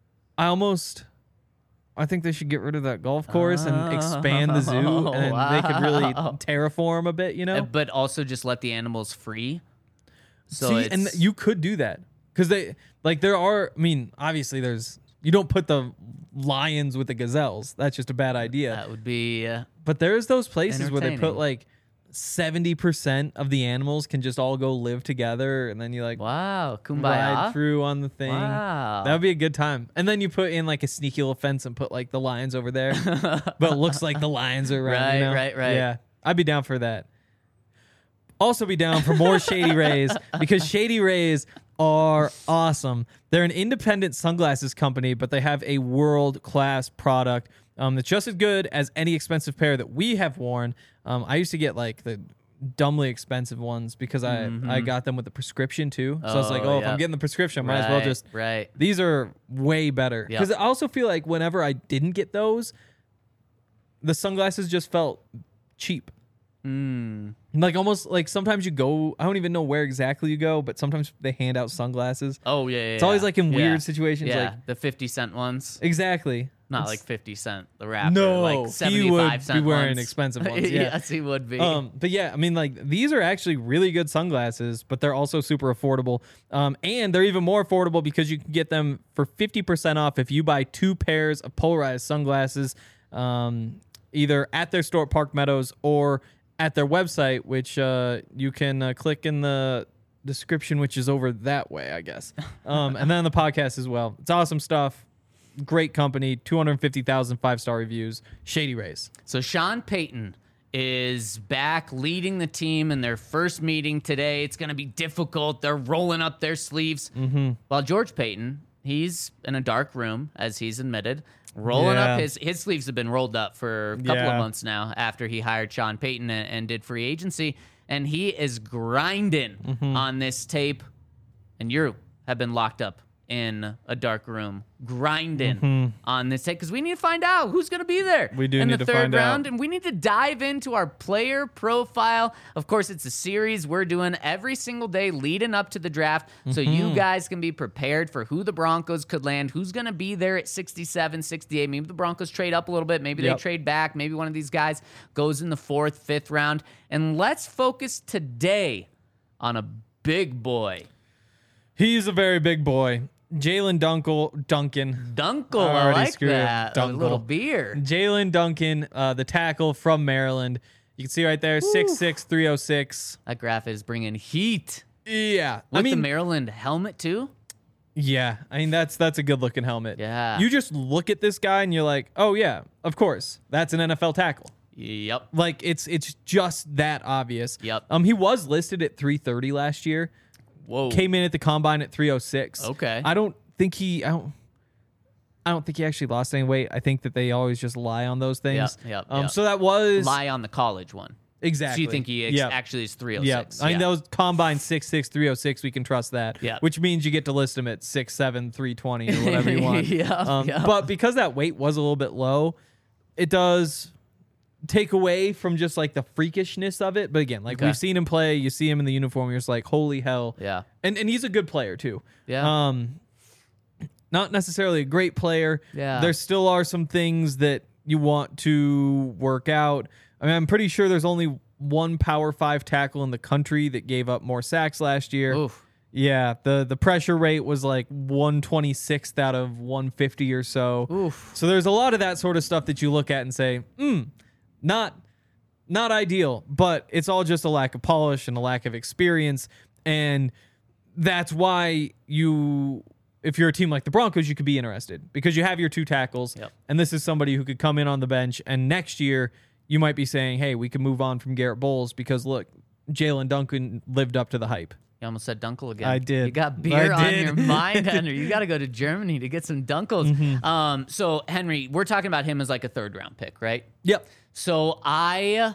I almost, I think they should get rid of that golf course and expand the zoo, and then they could really wow. terraform a bit, you know. Uh, But also just let the animals free. So See, it's, and th- you could do that because they like there are. I mean, obviously, there's you don't put the lions with the gazelles. That's just a bad idea. that would be uh, But there's those places where they put entertaining. like seventy percent of the animals can just all go live together, and then you like wow, ride kumbaya. through on the thing. Wow. That would be a good time. And then you put in like a sneaky little fence and put like the lions over there, but it looks like the lions are around. Right, you know? right, right. Yeah, I'd be down for that. Also, be down for more Shady Rays because Shady Rays are awesome. They're an independent sunglasses company, but they have a world-class product um, that's just as good as any expensive pair that we have worn. Um, I used to get like the dumbly expensive ones because I I got them with the prescription too. So I was like, Mm-hmm. Oh, oh, if yeah. I'm getting the prescription, I might as well Right, just. right. These are way better Yep. because I also feel like whenever I didn't get those, the sunglasses just felt cheap. Mm. Like almost like sometimes you go, I don't even know where exactly you go, but sometimes they hand out sunglasses. Oh yeah, yeah. It's always yeah. like in Yeah. weird situations, Yeah, like- the fifty cent ones. Exactly. Not It's- like fifty cent, the rapper. No, like he would seventy-five be cent wearing ones. expensive ones, yeah. yes, he would be. Um, but yeah, I mean, like these are actually really good sunglasses, but they're also super affordable. Um, and they're even more affordable because you can get them for fifty percent off if you buy two pairs of polarized sunglasses, um, either at their store at Park Meadows or at their website, which uh, you can uh, click in the description, which is over that way, I guess. Um, and then the podcast as well. It's awesome stuff. Great company, two hundred fifty thousand five-star reviews. Shady Rays. So Sean Payton is back leading the team in their first meeting today. It's going to be difficult. They're rolling up their sleeves. Mm-hmm. While George Payton, he's in a dark room, as he's admitted, rolling Yeah. up his his sleeves have been rolled up for a couple Yeah. of months now after he hired Sean Payton and, and did free agency, and he is grinding Mm-hmm. on this tape. And you have been locked up in a dark room grinding on this take because we need to find out who's going to be there We do in need the to third find round. out. And we need to dive into our player profile. Of course, it's a series we're doing every single day leading up to the draft. So you guys can be prepared for who the Broncos could land, who's going to be there at sixty-seven, sixty-eight. Maybe the Broncos trade up a little bit. Maybe Yep. they trade back. Maybe one of these guys goes in the fourth, fifth round. And let's focus today on a big boy. He's a very big boy. Jalen Dunkel, Duncan. Dunkel, I I already like screwed it. that. A Dunkel. little beer. Jalen Duncan, uh, the tackle from Maryland. You can see right there, six six, three oh six. That graph is bringing heat. Yeah. With I mean, the Maryland helmet, too? yeah. I mean, that's that's a good looking helmet. Yeah. You just look at this guy and you're like, oh, yeah, of course. That's an N F L tackle. Yep. Like, it's it's just that obvious. Yep. Um, He was listed at three thirty last year. Whoa. Came in at the combine at three oh six. Okay. I don't think he. I don't. I don't think he actually lost any weight. I think that they always just lie on those things. Yep, yep, um, yep. So that was Lie on the college one. exactly. So you think he ex- Yep. actually is three oh Yeah, six? I mean those combine six six three oh six. We can trust that. Yeah. Which means you get to list him at six seven three twenty or whatever you want. Yeah, Um, yeah. But because that weight was a little bit low, it does take away from just like the freakishness of it. But again, like Okay. we've seen him play, you see him in the uniform, you're just like, holy hell. Yeah. And and he's a good player too. Yeah. Um, not necessarily a great player. Yeah. There still are some things that you want to work out. I mean, I'm pretty sure there's only one Power Five tackle in the country that gave up more sacks last year. Oof. Yeah, the the pressure rate was like one twenty-sixth out of one fifty or so. Oof. So there's a lot of that sort of stuff that you look at and say, hmm, not not ideal, but it's all just a lack of polish and a lack of experience. And that's why you, if you're a team like the Broncos, you could be interested because you have your two tackles. Yep. And this is somebody who could come in on the bench. And next year, you might be saying, hey, we can move on from Garrett Bowles because, look, Jalen Duncan lived up to the hype. You almost said Dunkel again. I did. You got beer I on did. your mind, Henry. You got to go to Germany to get some Dunkels. Mm-hmm. Um, so, Henry, we're talking about him as like a third round pick, right? Yep. So I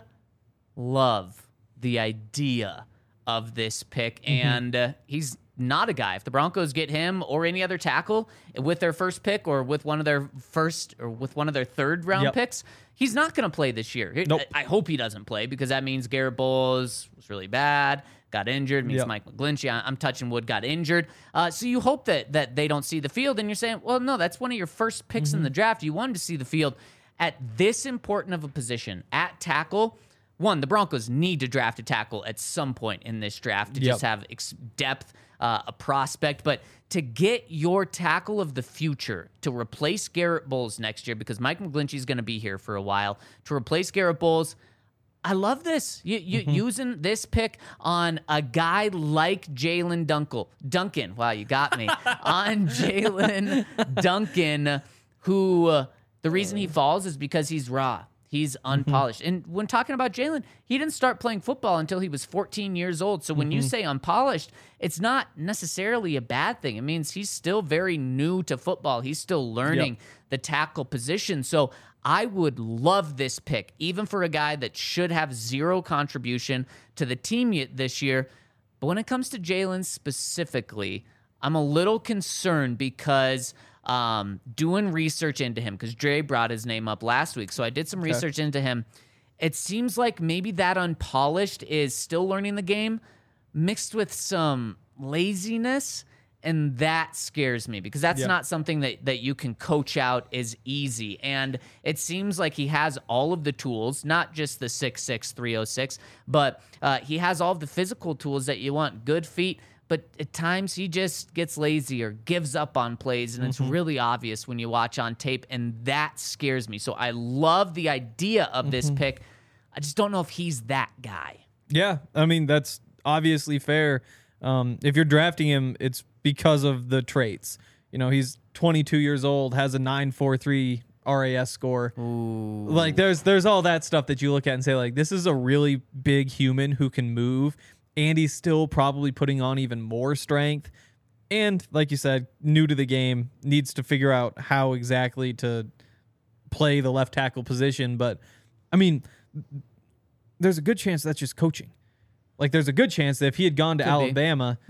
love the idea of this pick, Mm-hmm. and uh, he's not a guy. If the Broncos get him or any other tackle with their first pick or with one of their first or with one of their third round Yep. picks, he's not going to play this year. Nope. I, I hope he doesn't play because that means Garrett Bowles was really bad, got injured. Means Yep. Mike McGlinchey, I- I'm touching wood, got injured. Uh, so you hope that that they don't see the field, and you're saying, well, no, that's one of your first picks Mm-hmm. in the draft. You wanted to see the field at this important of a position at tackle. One, the Broncos need to draft a tackle at some point in this draft to Yep. just have ex- depth, uh, a prospect. But to get your tackle of the future to replace Garrett Bowles next year, because Mike McGlinchey is going to be here for a while, to replace Garrett Bowles, I love this. You, you Mm-hmm. using this pick on a guy like Jalen Dunkel. Duncan. Wow, you got me. On Jalen Duncan, who uh, the reason he falls is because he's raw. He's unpolished. Mm-hmm. And when talking about Jalen, he didn't start playing football until he was fourteen years old. So when you Mm-hmm. say unpolished, it's not necessarily a bad thing. It means he's still very new to football. He's still learning Yep. the tackle position. So I would love this pick, even for a guy that should have zero contribution to the team y- this year. But when it comes to Jalen specifically, I'm a little concerned because um, doing research into him, because Dre brought his name up last week. So I did some research into him. It seems like maybe that unpolished is still learning the game mixed with some laziness. And that scares me because that's Yeah. not something that, that you can coach out as easy. And it seems like he has all of the tools, not just the six six, three oh six, but uh, he has all of the physical tools that you want. Good feet, but at times he just gets lazy or gives up on plays, and it's really obvious when you watch on tape, and that scares me. So I love the idea of this pick. I just don't know if he's that guy. Yeah, I mean, that's obviously fair. Um, if you're drafting him, it's because of the traits. You know, he's twenty-two years old, has a nine four three R A S score. Ooh. Like there's there's all that stuff that you look at and say, like, this is a really big human who can move, and he's still probably putting on even more strength. And like you said, new to the game, needs to figure out how exactly to play the left tackle position. But I mean, there's a good chance that's just coaching. Like there's a good chance that if he had gone to Could be. Alabama, Yep.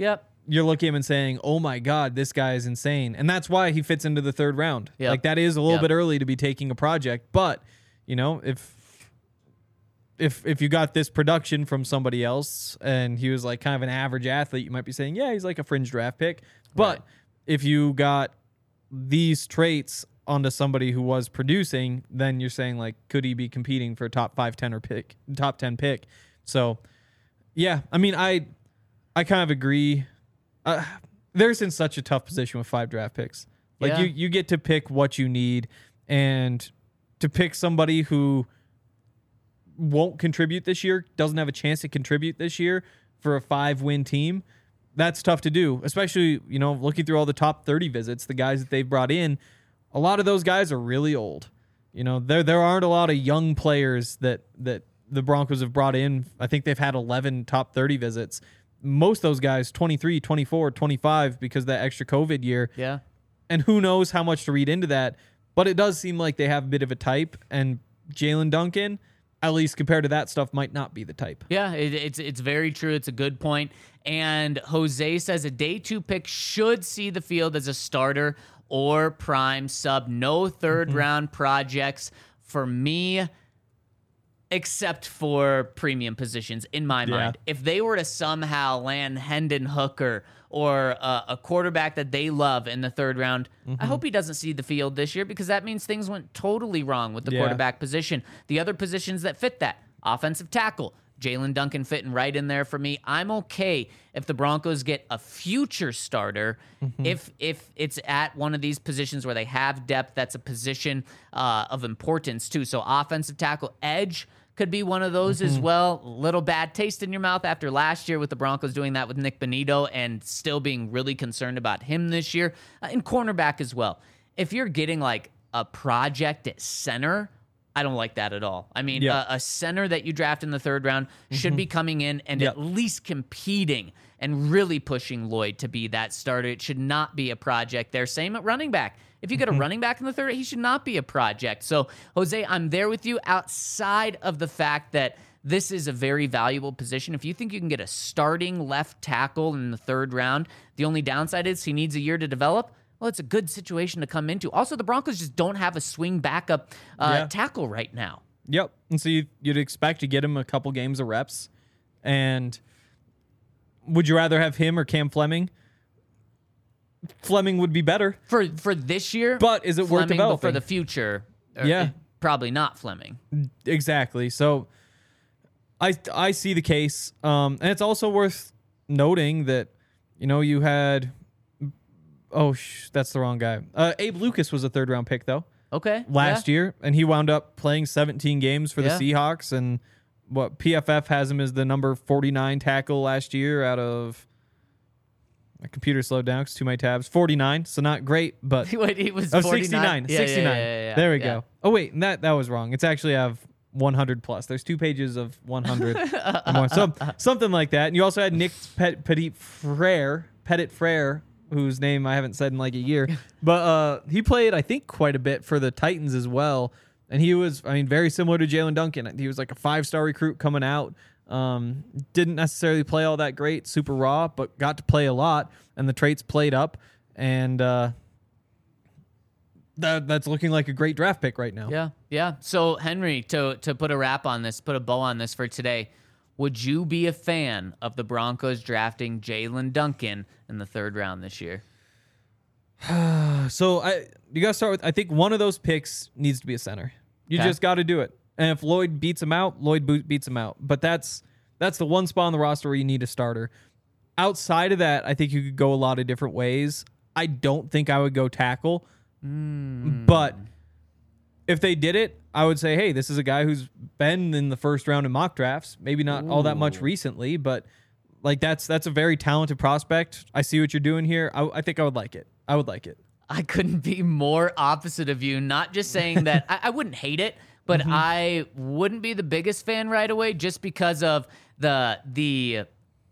you're looking at him and saying, oh my God, this guy is insane. And that's why he fits into the third round. Yep. Like that is a little Yep. bit early to be taking a project. But, you know, if if if you got this production from somebody else and he was like kind of an average athlete, you might be saying, yeah, he's like a fringe draft pick. But Right. if you got these traits onto somebody who was producing, then you're saying like, could he be competing for a top five, ten or pick, top ten pick? So, yeah, I mean, I I kind of agree. Uh, they're in such a tough position with five draft picks. Like Yeah. you, you get to pick what you need, and to pick somebody who won't contribute this year, doesn't have a chance to contribute this year for a five-win team, that's tough to do. Especially, you know, looking through all the top thirty visits, the guys that they've brought in, a lot of those guys are really old. You know, there there aren't a lot of young players that that the Broncos have brought in. I think they've had eleven top thirty visits. Most of those guys, twenty-three, twenty-four, twenty-five, because of that extra COVID year. Yeah. And who knows how much to read into that. But it does seem like they have a bit of a type. And Jalen Duncan, at least compared to that stuff, might not be the type. Yeah, it, it's it's very true. It's a good point. And Jose says a day two pick should see the field as a starter or prime sub. No third Mm-hmm. round projects for me, except for premium positions in my Yeah. mind. If they were to somehow land Hendon Hooker or uh, a quarterback that they love in the third round, Mm-hmm. I hope he doesn't see the field this year, because that means things went totally wrong with the Yeah. quarterback position. The other positions that fit that, offensive tackle, Jalen Duncan fitting right in there for me. I'm okay if the Broncos get a future starter, Mm-hmm. if if it's at one of these positions where they have depth. That's a position uh, of importance too. So offensive tackle, edge could be one of those Mm-hmm. as well. Little bad taste in your mouth after last year with the Broncos doing that with Nick Bonito and still being really concerned about him this year. Uh, and cornerback as well. If you're getting like a project at center, I don't like that at all. I mean, Yeah. a, a center that you draft in the third round should be coming in and Yep. at least competing and really pushing Lloyd to be that starter. It should not be a project there. Same at running back. If you get a running back in the third, he should not be a project. So, Jose, I'm there with you outside of the fact that this is a very valuable position. If you think you can get a starting left tackle in the third round, the only downside is he needs a year to develop. Well, it's a good situation to come into. Also, the Broncos just don't have a swing backup uh, Yeah. tackle right now. Yep. And so you, you'd expect to get him a couple games of reps. And would you rather have him or Cam Fleming? Fleming would be better. For for this year, But is it worth Fleming, but developing? for the future, or, Yeah. uh, probably not Fleming. Exactly. So I I see the case. Um, and it's also worth noting that, you know, you had, oh, sh- that's the wrong guy. Uh, Abe Lucas was a third round pick, though, Okay, last yeah. year. And he wound up playing seventeen games for the Yeah. Seahawks. And what P F F has him as the number forty-nine tackle last year out of, my computer slowed down because too many tabs. forty-nine. So not great, but. Wait, he was Oh, forty-nine? sixty-nine. Yeah, yeah, sixty-nine. yeah, yeah, yeah. There we Yeah. go. Oh, wait. and That that was wrong. It's actually I have one hundred plus. There's two pages of one hundred or more. So, something like that. And you also had Nick Pet, Petit Frere, Petit Frere, whose name I haven't said in like a year. But uh, he played, I think, quite a bit for the Titans as well. And he was, I mean, very similar to Jalen Duncan. He was like a five-star recruit coming out. Um, didn't necessarily play all that great, super raw, but got to play a lot. And the traits played up. And uh, that that's looking like a great draft pick right now. Yeah, yeah. So Henry, to to put a wrap on this, put a bow on this for today, would you be a fan of the Broncos drafting Jalen Duncan in the third round this year? So I you got to start with, I think one of those picks needs to be a center. You Okay. just got to do it. And if Lloyd beats him out, Lloyd bo- beats him out. But that's that's the one spot on the roster where you need a starter. Outside of that, I think you could go a lot of different ways. I don't think I would go tackle. But if they did it, I would say, hey, this is a guy who's been in the first round in mock drafts. Maybe not all that much recently, but like that's that's a very talented prospect. I see what you're doing here. I, I think I would like it. I would like it. I couldn't be more opposite of you. Not just saying that I, I wouldn't hate it, but Mm-hmm. I wouldn't be the biggest fan right away just because of the the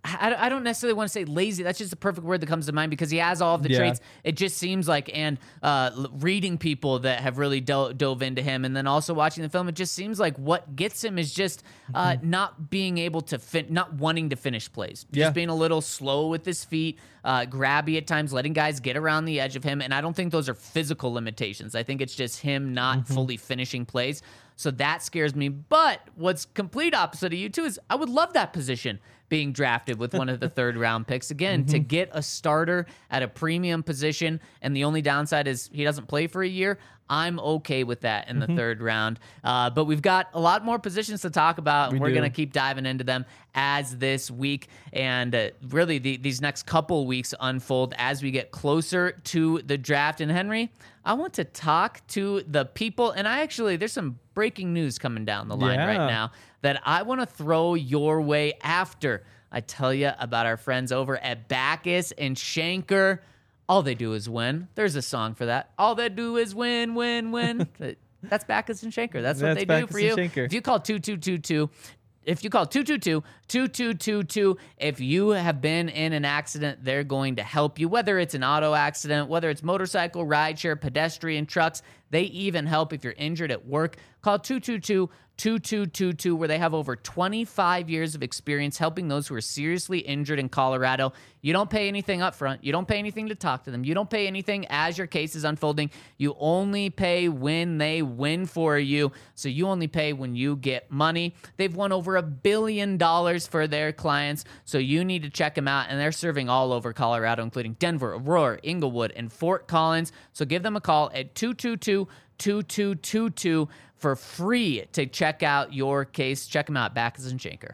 I, I don't necessarily want to say lazy. That's just the perfect word that comes to mind because he has all of the Yeah. traits. It just seems like, and uh, l- reading people that have really do- dove into him, and then also watching the film, it just seems like what gets him is just uh, Mm-hmm. not being able to fin- not wanting to finish plays, just Yeah. being a little slow with his feet, uh, grabby at times, letting guys get around the edge of him. And I don't think those are physical limitations. I think it's just him not Mm-hmm. fully finishing plays. So that scares me. But what's complete opposite of you too is I would love that position being drafted with one of the third round picks. Again, Mm-hmm. to get a starter at a premium position, and the only downside is he doesn't play for a year. I'm okay with that in the Mm-hmm. third round. Uh, but we've got a lot more positions to talk about, and We we're do. going to keep diving into them as this week and uh, really the, these next couple weeks unfold as we get closer to the draft. And Henry, I want to talk to the people, and I actually, there's some breaking news coming down the line Yeah. right now that I want to throw your way after I tell you about our friends over at Backus and Shanker. All they do is win. There's a song for that. All they do is win, win, win. That's Backus and Shanker. That's what That's they Backus do for you. and Shanker. If you call two two two two, if you call two two two, two two two two, if you have been in an accident, they're going to help you, whether it's an auto accident, whether it's motorcycle, rideshare, pedestrian, trucks. They even help if you're injured at work. Call two two two, two two two two, where they have over twenty-five years of experience helping those who are seriously injured in Colorado. You don't pay anything up front. You don't pay anything to talk to them. You don't pay anything as your case is unfolding. You only pay when they win for you. So you only pay when you get money. They've won over a billion dollars for their clients. So you need to check them out. And they're serving all over Colorado, including Denver, Aurora, Inglewood, and Fort Collins. So give them a call at two two two, two two two two for free to check out your case. Check them out, Backus and Shanker.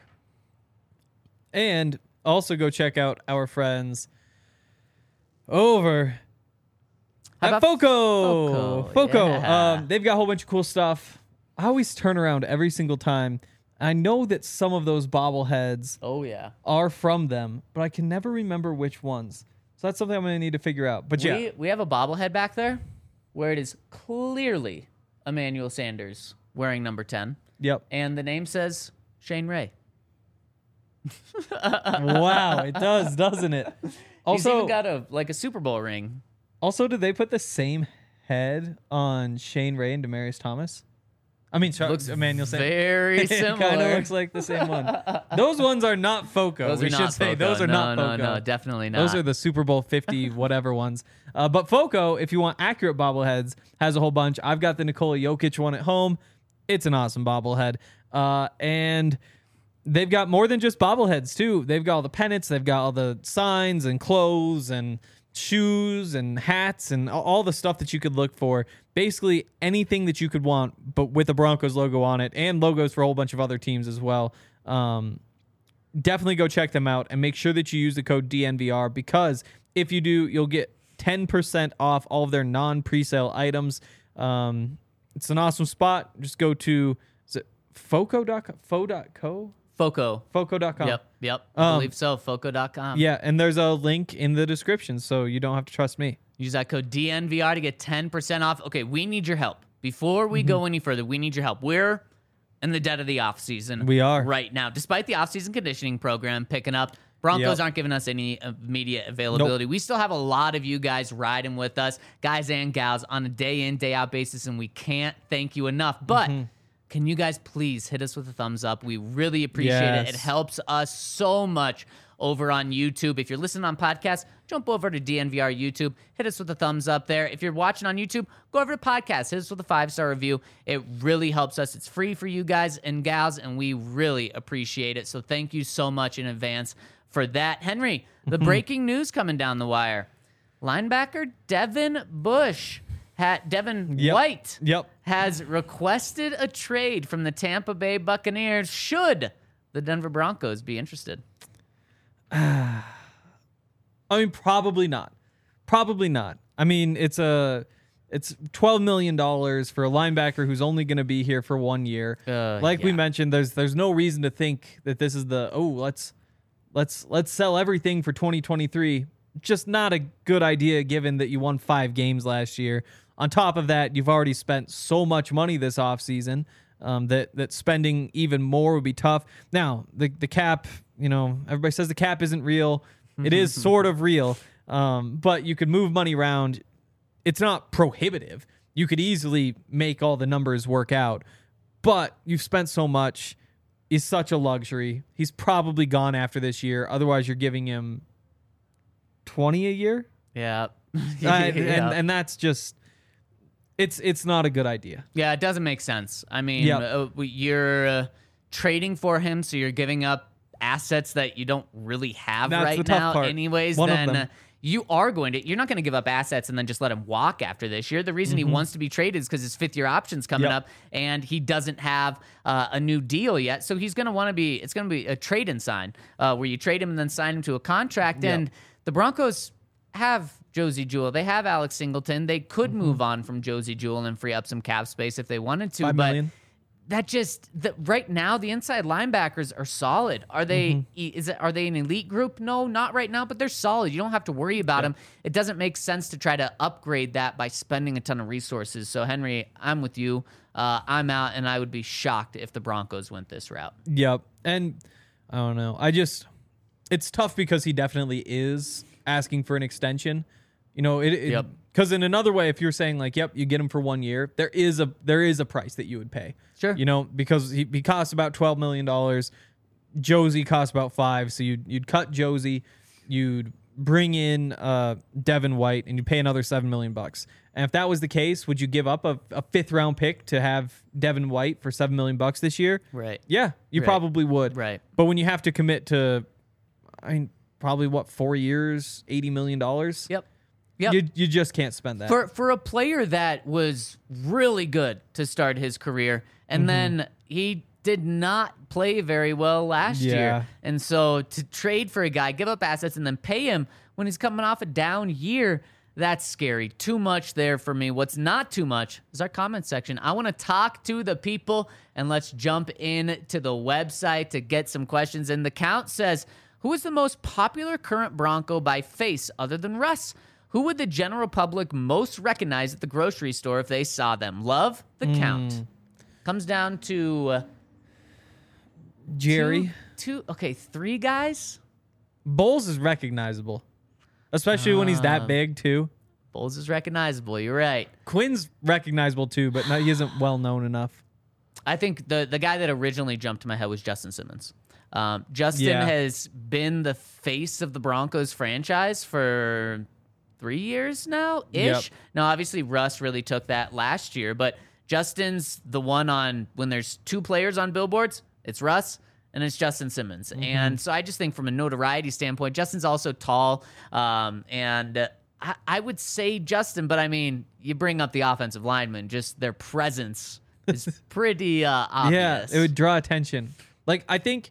And also go check out our friends over How at about Foco. Foco? Foco. Yeah. Um, they've got a whole bunch of cool stuff. I always turn around every single time. I know that some of those bobbleheads Oh, yeah. are from them, but I can never remember which ones. So that's something I'm going to need to figure out. But yeah, We, we have a bobblehead back there where it is clearly Emmanuel Sanders wearing number ten. yep. And the name says Shane Ray. Wow, it does, doesn't it? He's Also, even got a like a Super Bowl ring. also, did they put the same head on Shane Ray and Demaryius Thomas? I mean, Char- Looks Emmanuel Sanders. very It kind of similar. looks like the same one. Those ones are not Foco. Those we are should not say Foco. those are no, not no, Foco. No, definitely not. Those are the Super Bowl fifty whatever ones. Uh, but Foco, if you want accurate bobbleheads, has a whole bunch. I've got the Nikola Jokic one at home. It's an awesome bobblehead. Uh, and they've got more than just bobbleheads, too. They've got all the pennants. They've got all the signs and clothes and shoes and hats and all- all the stuff that you could look for. Basically anything that you could want, but with the Broncos logo on it and logos for a whole bunch of other teams as well. Um, definitely go check them out and make sure that you use the code D N V R, because if you do, you'll get ten percent off all of their non-presale items. Um, it's an awesome spot. Just go to is it foco dot com? Fo dot co? Foco. foco dot com. Yep, yep. I Um, believe so. Foco dot com. Yeah, and there's a link in the description, so you don't have to trust me. Use that code D N V R to get ten percent off. Okay, we need your help. Before we Mm-hmm. go any further, we need your help. We're in the dead of the off season. We are. right now. Despite the off-season conditioning program picking up, Broncos Yep. aren't giving us any immediate availability. We still have a lot of you guys riding with us, guys and gals, on a day in, day out basis, and we can't thank you enough. But Mm-hmm. can you guys please hit us with a thumbs up? We really appreciate it. It Yes. helps us so much over on YouTube. If you're listening on podcast, jump over to D N V R YouTube. Hit us with a thumbs up there. If you're watching on YouTube, go over to podcast. Hit us with a five-star review. It really helps us. It's free for you guys and gals, and we really appreciate it. So thank you so much in advance for that. Henry, the breaking news coming down the wire. Linebacker Devin Bush, had, Devin Yep. White, Yep. has requested a trade from the Tampa Bay Buccaneers should the Denver Broncos be interested. I mean, probably not. Probably not. I mean, it's a it's twelve million dollars for a linebacker who's only going to be here for one year. Uh, like we yeah. mentioned, there's there's no reason to think that this is the oh let's let's let's sell everything for twenty twenty-three. Just not a good idea given that you won five games last year. On top of that, you've already spent so much money this offseason um, that that spending even more would be tough. Now, the the cap, you know, everybody says the cap isn't real. It is sort of real, um, but you could move money around. It's not prohibitive. You could easily make all the numbers work out, but you've spent so much. He's such a luxury. He's probably gone after this year. Otherwise, you're giving him twenty a year. Yeah. Uh, yeah. and, and and that's just it's it's not a good idea. Yeah, it doesn't make sense. I mean, Yep. uh, you're uh, trading for him, so you're giving up assets that you don't really have That's right the tough now part. anyways. One of then them. uh, you are going to you're not going to give up assets and then just let him walk after this year. The reason he wants to be traded is because his fifth year option's coming Yep. up and he doesn't have uh, a new deal yet. So he's going to want to be it's going to be a trade and sign uh, where you trade him and then sign him to a contract. Yep. And the Broncos have Josie Jewell. They have Alex Singleton. They could Mm-hmm. move on from Josie Jewell and free up some cap space if they wanted to. Five but million. that just the, right now the inside linebackers are solid. Are they? Mm-hmm. e- Is it? Are they an elite group? No, not right now. But they're solid. You don't have to worry about them. It doesn't make sense to try to upgrade that by spending a ton of resources. So Henry, I'm with you. Uh, I'm out, and I would be shocked if the Broncos went this route. Yep. And I don't know. I just it's tough because he definitely is asking for an extension. You know, it, it Yep. Because in another way, if you're saying like, "Yep, you get him for one year," there is a there is a price that you would pay. Sure. You know, because he, he costs about twelve million dollars. Josie costs about five, so you'd you'd cut Josie, you'd bring in uh, Devin White, and you pay another seven million bucks. And if that was the case, would you give up a, a fifth round pick to have Devin White for seven million bucks this year? Right. Yeah, you Right. probably would. Right. But when you have to commit to, I mean, probably what four years, eighty million dollars. Yep. Yep. You you just can't spend that. For for a player that was really good to start his career, and Mm-hmm. then he did not play very well last Yeah. year, and so to trade for a guy, give up assets, and then pay him when he's coming off a down year, that's scary. Too much there for me. What's not too much is our comment section. I want to talk to the people, and let's jump in to the website to get some questions. And the count says, who is the most popular current Bronco by face other than Russ? Who would the general public most recognize at the grocery store if they saw them? Love the count. Comes down to uh, Jerry two, two, okay, three guys. Bowles is recognizable, especially when he's Um, that big too. Bowles is recognizable. You're right. Quinn's recognizable too, but no, he isn't well known enough. I think the the guy that originally jumped to my head was Justin Simmons. Um, Justin Yeah. has been the face of the Broncos franchise for three years now ish. Yep. Now, obviously, Russ really took that last year, but Justin's the one on when there's two players on billboards, it's Russ and it's Justin Simmons. Mm-hmm. And so I just think from a notoriety standpoint, Justin's also tall. Um, and uh, I, I would say Justin, but I mean, you bring up the offensive linemen, just their presence is pretty uh, obvious. Yeah, it would draw attention. Like I think.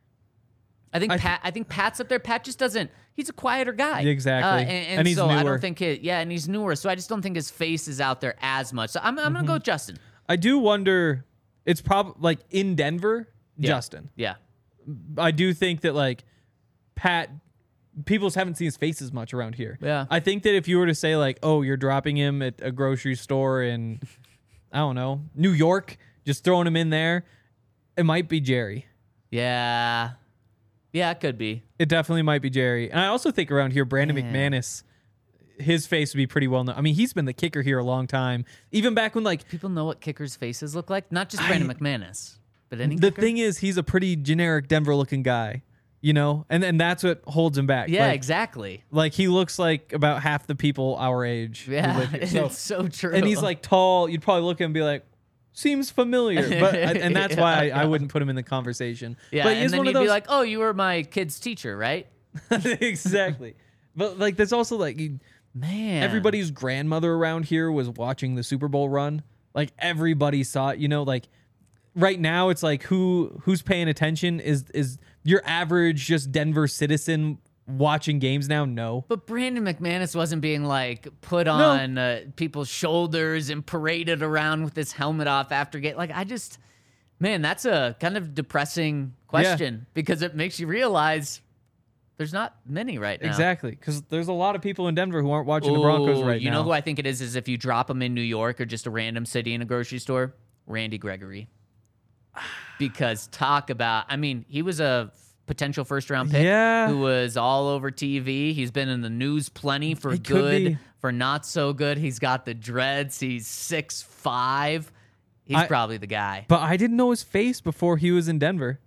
I think I Pat. I think Pat's up there. Pat just doesn't. He's a quieter guy. Exactly. Uh, and, and, And he's so I newer. don't think it. Yeah, and he's newer. So I just don't think his face is out there as much. So I'm, I'm gonna go with Justin. I do wonder. It's probably like in Denver, Yeah. Justin. Yeah. I do think that like Pat, people just haven't seen his face as much around here. Yeah. I think that if you were to say like, oh, you're dropping him at a grocery store in, I don't know, New York, just throwing him in there, it might be Jerry. Yeah. Yeah, it could be. It definitely might be Jerry. And I also think around here, Brandon Man. McManus, his face would be pretty well known. I mean, he's been the kicker here a long time. Even back when like People know what kickers' faces look like. Not just Brandon I- McManus, but any. the kicker? thing is, he's a pretty generic Denver looking guy, you know, and and that's what holds him back. Yeah, like, exactly. like he looks like about half the people our age. who Yeah, live here. So- it's so true. and he's like tall. You'd probably look at him and be like, seems familiar, but and that's why I, I wouldn't put him in the conversation. yeah, but he and is then one he'd of those be like, "Oh, you were my kid's teacher, right?" exactly. But like, there's also like you- Man, everybody's grandmother around here was watching the Super Bowl run. Like everybody saw it. You know, like right now it's like who who's paying attention is is your average just Denver citizen watching games now? No. But Brandon McManus wasn't being like put on uh, people's shoulders and paraded around with his helmet off after game. Like I just, man, that's a kind of depressing question because it makes you realize there's not many right now. Exactly, because there's a lot of people in Denver who aren't watching the Broncos Ooh, right you now. know who I think it is? Is if you drop him in New York or just a random city in a grocery store, Randy Gregory. Because talk about, I mean, he was a potential first round pick Yeah. who was all over T V. He's been in the news plenty for It could be. good, for not so good. He's got the dreads. He's six five. He's I- probably the guy. But I didn't know his face before he was in Denver.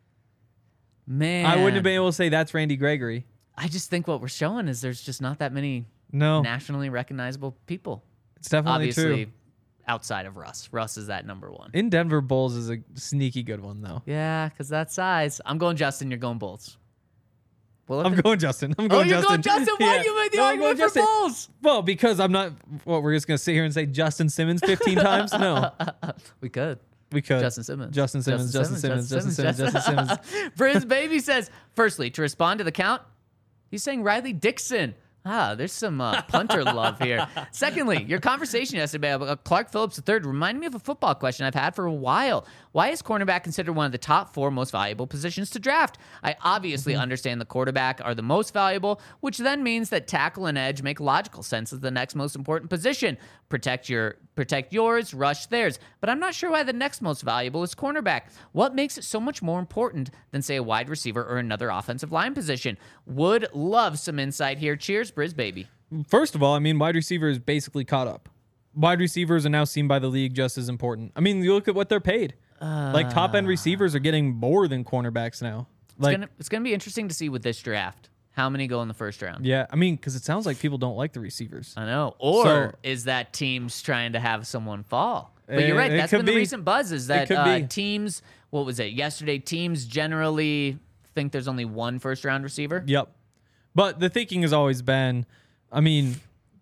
Man, I wouldn't have been able to say that's Randy Gregory. I just think what we're showing is there's just not that many No, nationally recognizable people. it's definitely Obviously, true. outside of Russ. Russ is that number one. In Denver, Bulls is a sneaky good one, though. Yeah, because that size. I'm going Justin. You're going Bulls. Well, I'm going Justin. I'm Oh, going you're Justin. going Justin. Why Yeah. you made the No, I'm argument going for Justin. Bulls? Well, because I'm not. What we're just gonna sit here and say Justin Simmons fifteen times? No, We could. we could. Justin Simmons. Justin Simmons. Justin Simmons. Justin Simmons. Justin Simmons. Briz Baby says, firstly, to respond to the count, he's saying Riley Dixon. Ah, there's some uh, punter love here. Secondly, your conversation yesterday about Clark Phillips the third reminded me of a football question I've had for a while. Why is cornerback considered one of the top four most valuable positions to draft? I obviously Mm-hmm. understand the quarterback are the most valuable, which then means that tackle and edge make logical sense as the next most important position. Protect your protect yours, rush theirs. But I'm not sure why the next most valuable is cornerback. What makes it so much more important than, say, a wide receiver or another offensive line position? Would love some insight here. Cheers, Briz Baby. First of all, I mean, wide receiver is basically caught up. Wide receivers are now seen by the league just as important. I mean, you look at what they're paid. like top end receivers are getting more than cornerbacks now. Like, It's gonna, it's gonna be interesting to see with this draft how many go in the first round. yeah, I mean, because it sounds like people don't like the receivers. I know. Or So- is that teams trying to have someone fall? But Uh, you're right. it That's could been the be. recent buzz is that could uh, be. teams, what was it, yesterday, teams generally think there's only one first round receiver. Yep. But the thinking has always been, I mean,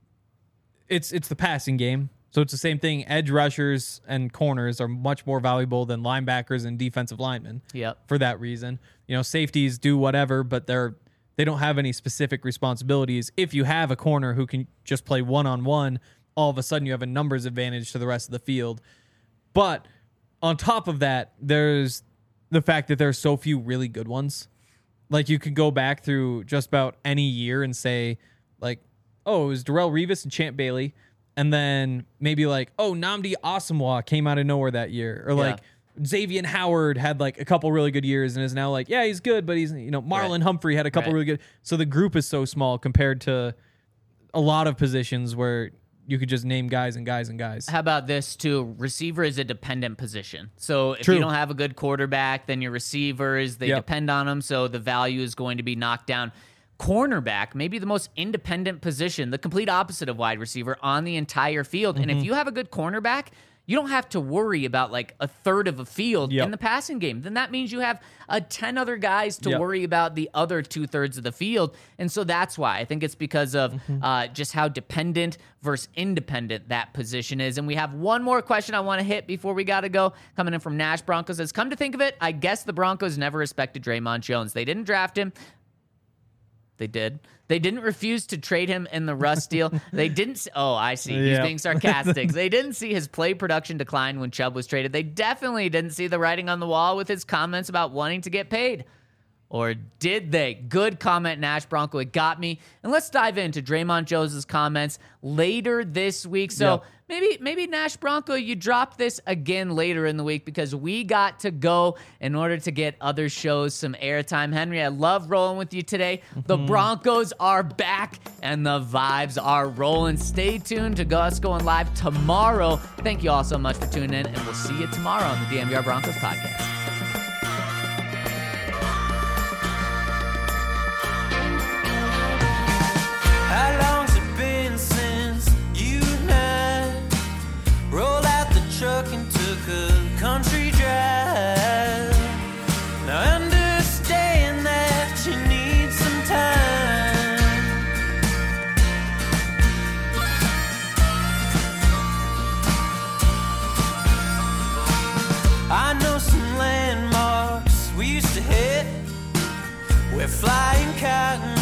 it's it's the passing game. So it's the same thing. Edge rushers and corners are much more valuable than linebackers and defensive linemen. Yep. For that reason, you know, safeties do whatever, but they're they don't have any specific responsibilities. If you have a corner who can just play one on one, all of a sudden you have a numbers advantage to the rest of the field. But on top of that, there's the fact that there's so few really good ones. Like, you could go back through just about any year and say, like, oh, it was Darrelle Revis and Champ Bailey. And then maybe like, oh, Nnamdi Asomugha came out of nowhere that year. Or like Xavier Howard had like a couple really good years and is now like, yeah, he's good, but he's, you know, Marlon Right. Humphrey had a couple Right. really good. So the group is so small compared to a lot of positions where you could just name guys and guys and guys. How about this too? Receiver is a dependent position. So if True. you don't have a good quarterback, then your receivers, they Yep. depend on them. So the value is going to be knocked down. Cornerback, maybe the most independent position, the complete opposite of wide receiver on the entire field. And if Mm-hmm. you have a good cornerback, you don't have to worry about like a third of a field Yep. in the passing game. Then that means you have uh, ten other guys to Yep. worry about the other two thirds of the field. And so that's why I think it's because of Mm-hmm. uh, just how dependent versus independent that position is. And we have one more question I want to hit before we got to go. Coming in from Nash Broncos says, come to think of it, I guess the Broncos never respected Draymond Jones. They didn't draft him. They did. They didn't refuse to trade him in the Russ deal. They didn't. See, oh, I see. He's Yeah. being sarcastic. They didn't see his play production decline when Chubb was traded. They definitely didn't see the writing on the wall with his comments about wanting to get paid. Or did they? Good comment, Nash Bronco. It got me. And let's dive into Draymond Jones' comments later this week. So Yeah. maybe maybe Nash Bronco, you drop this again later in the week because we got to go in order to get other shows some airtime. Henry, I love rolling with you today. The Broncos are back and the vibes are rolling. Stay tuned to us going live tomorrow. Thank you all so much for tuning in, and we'll see you tomorrow on the D M V R Broncos podcast. How long's it been since you and I rolled out the truck and took a country drive? Now I understand that you need some time. I know some landmarks we used to hit. We're flying cotton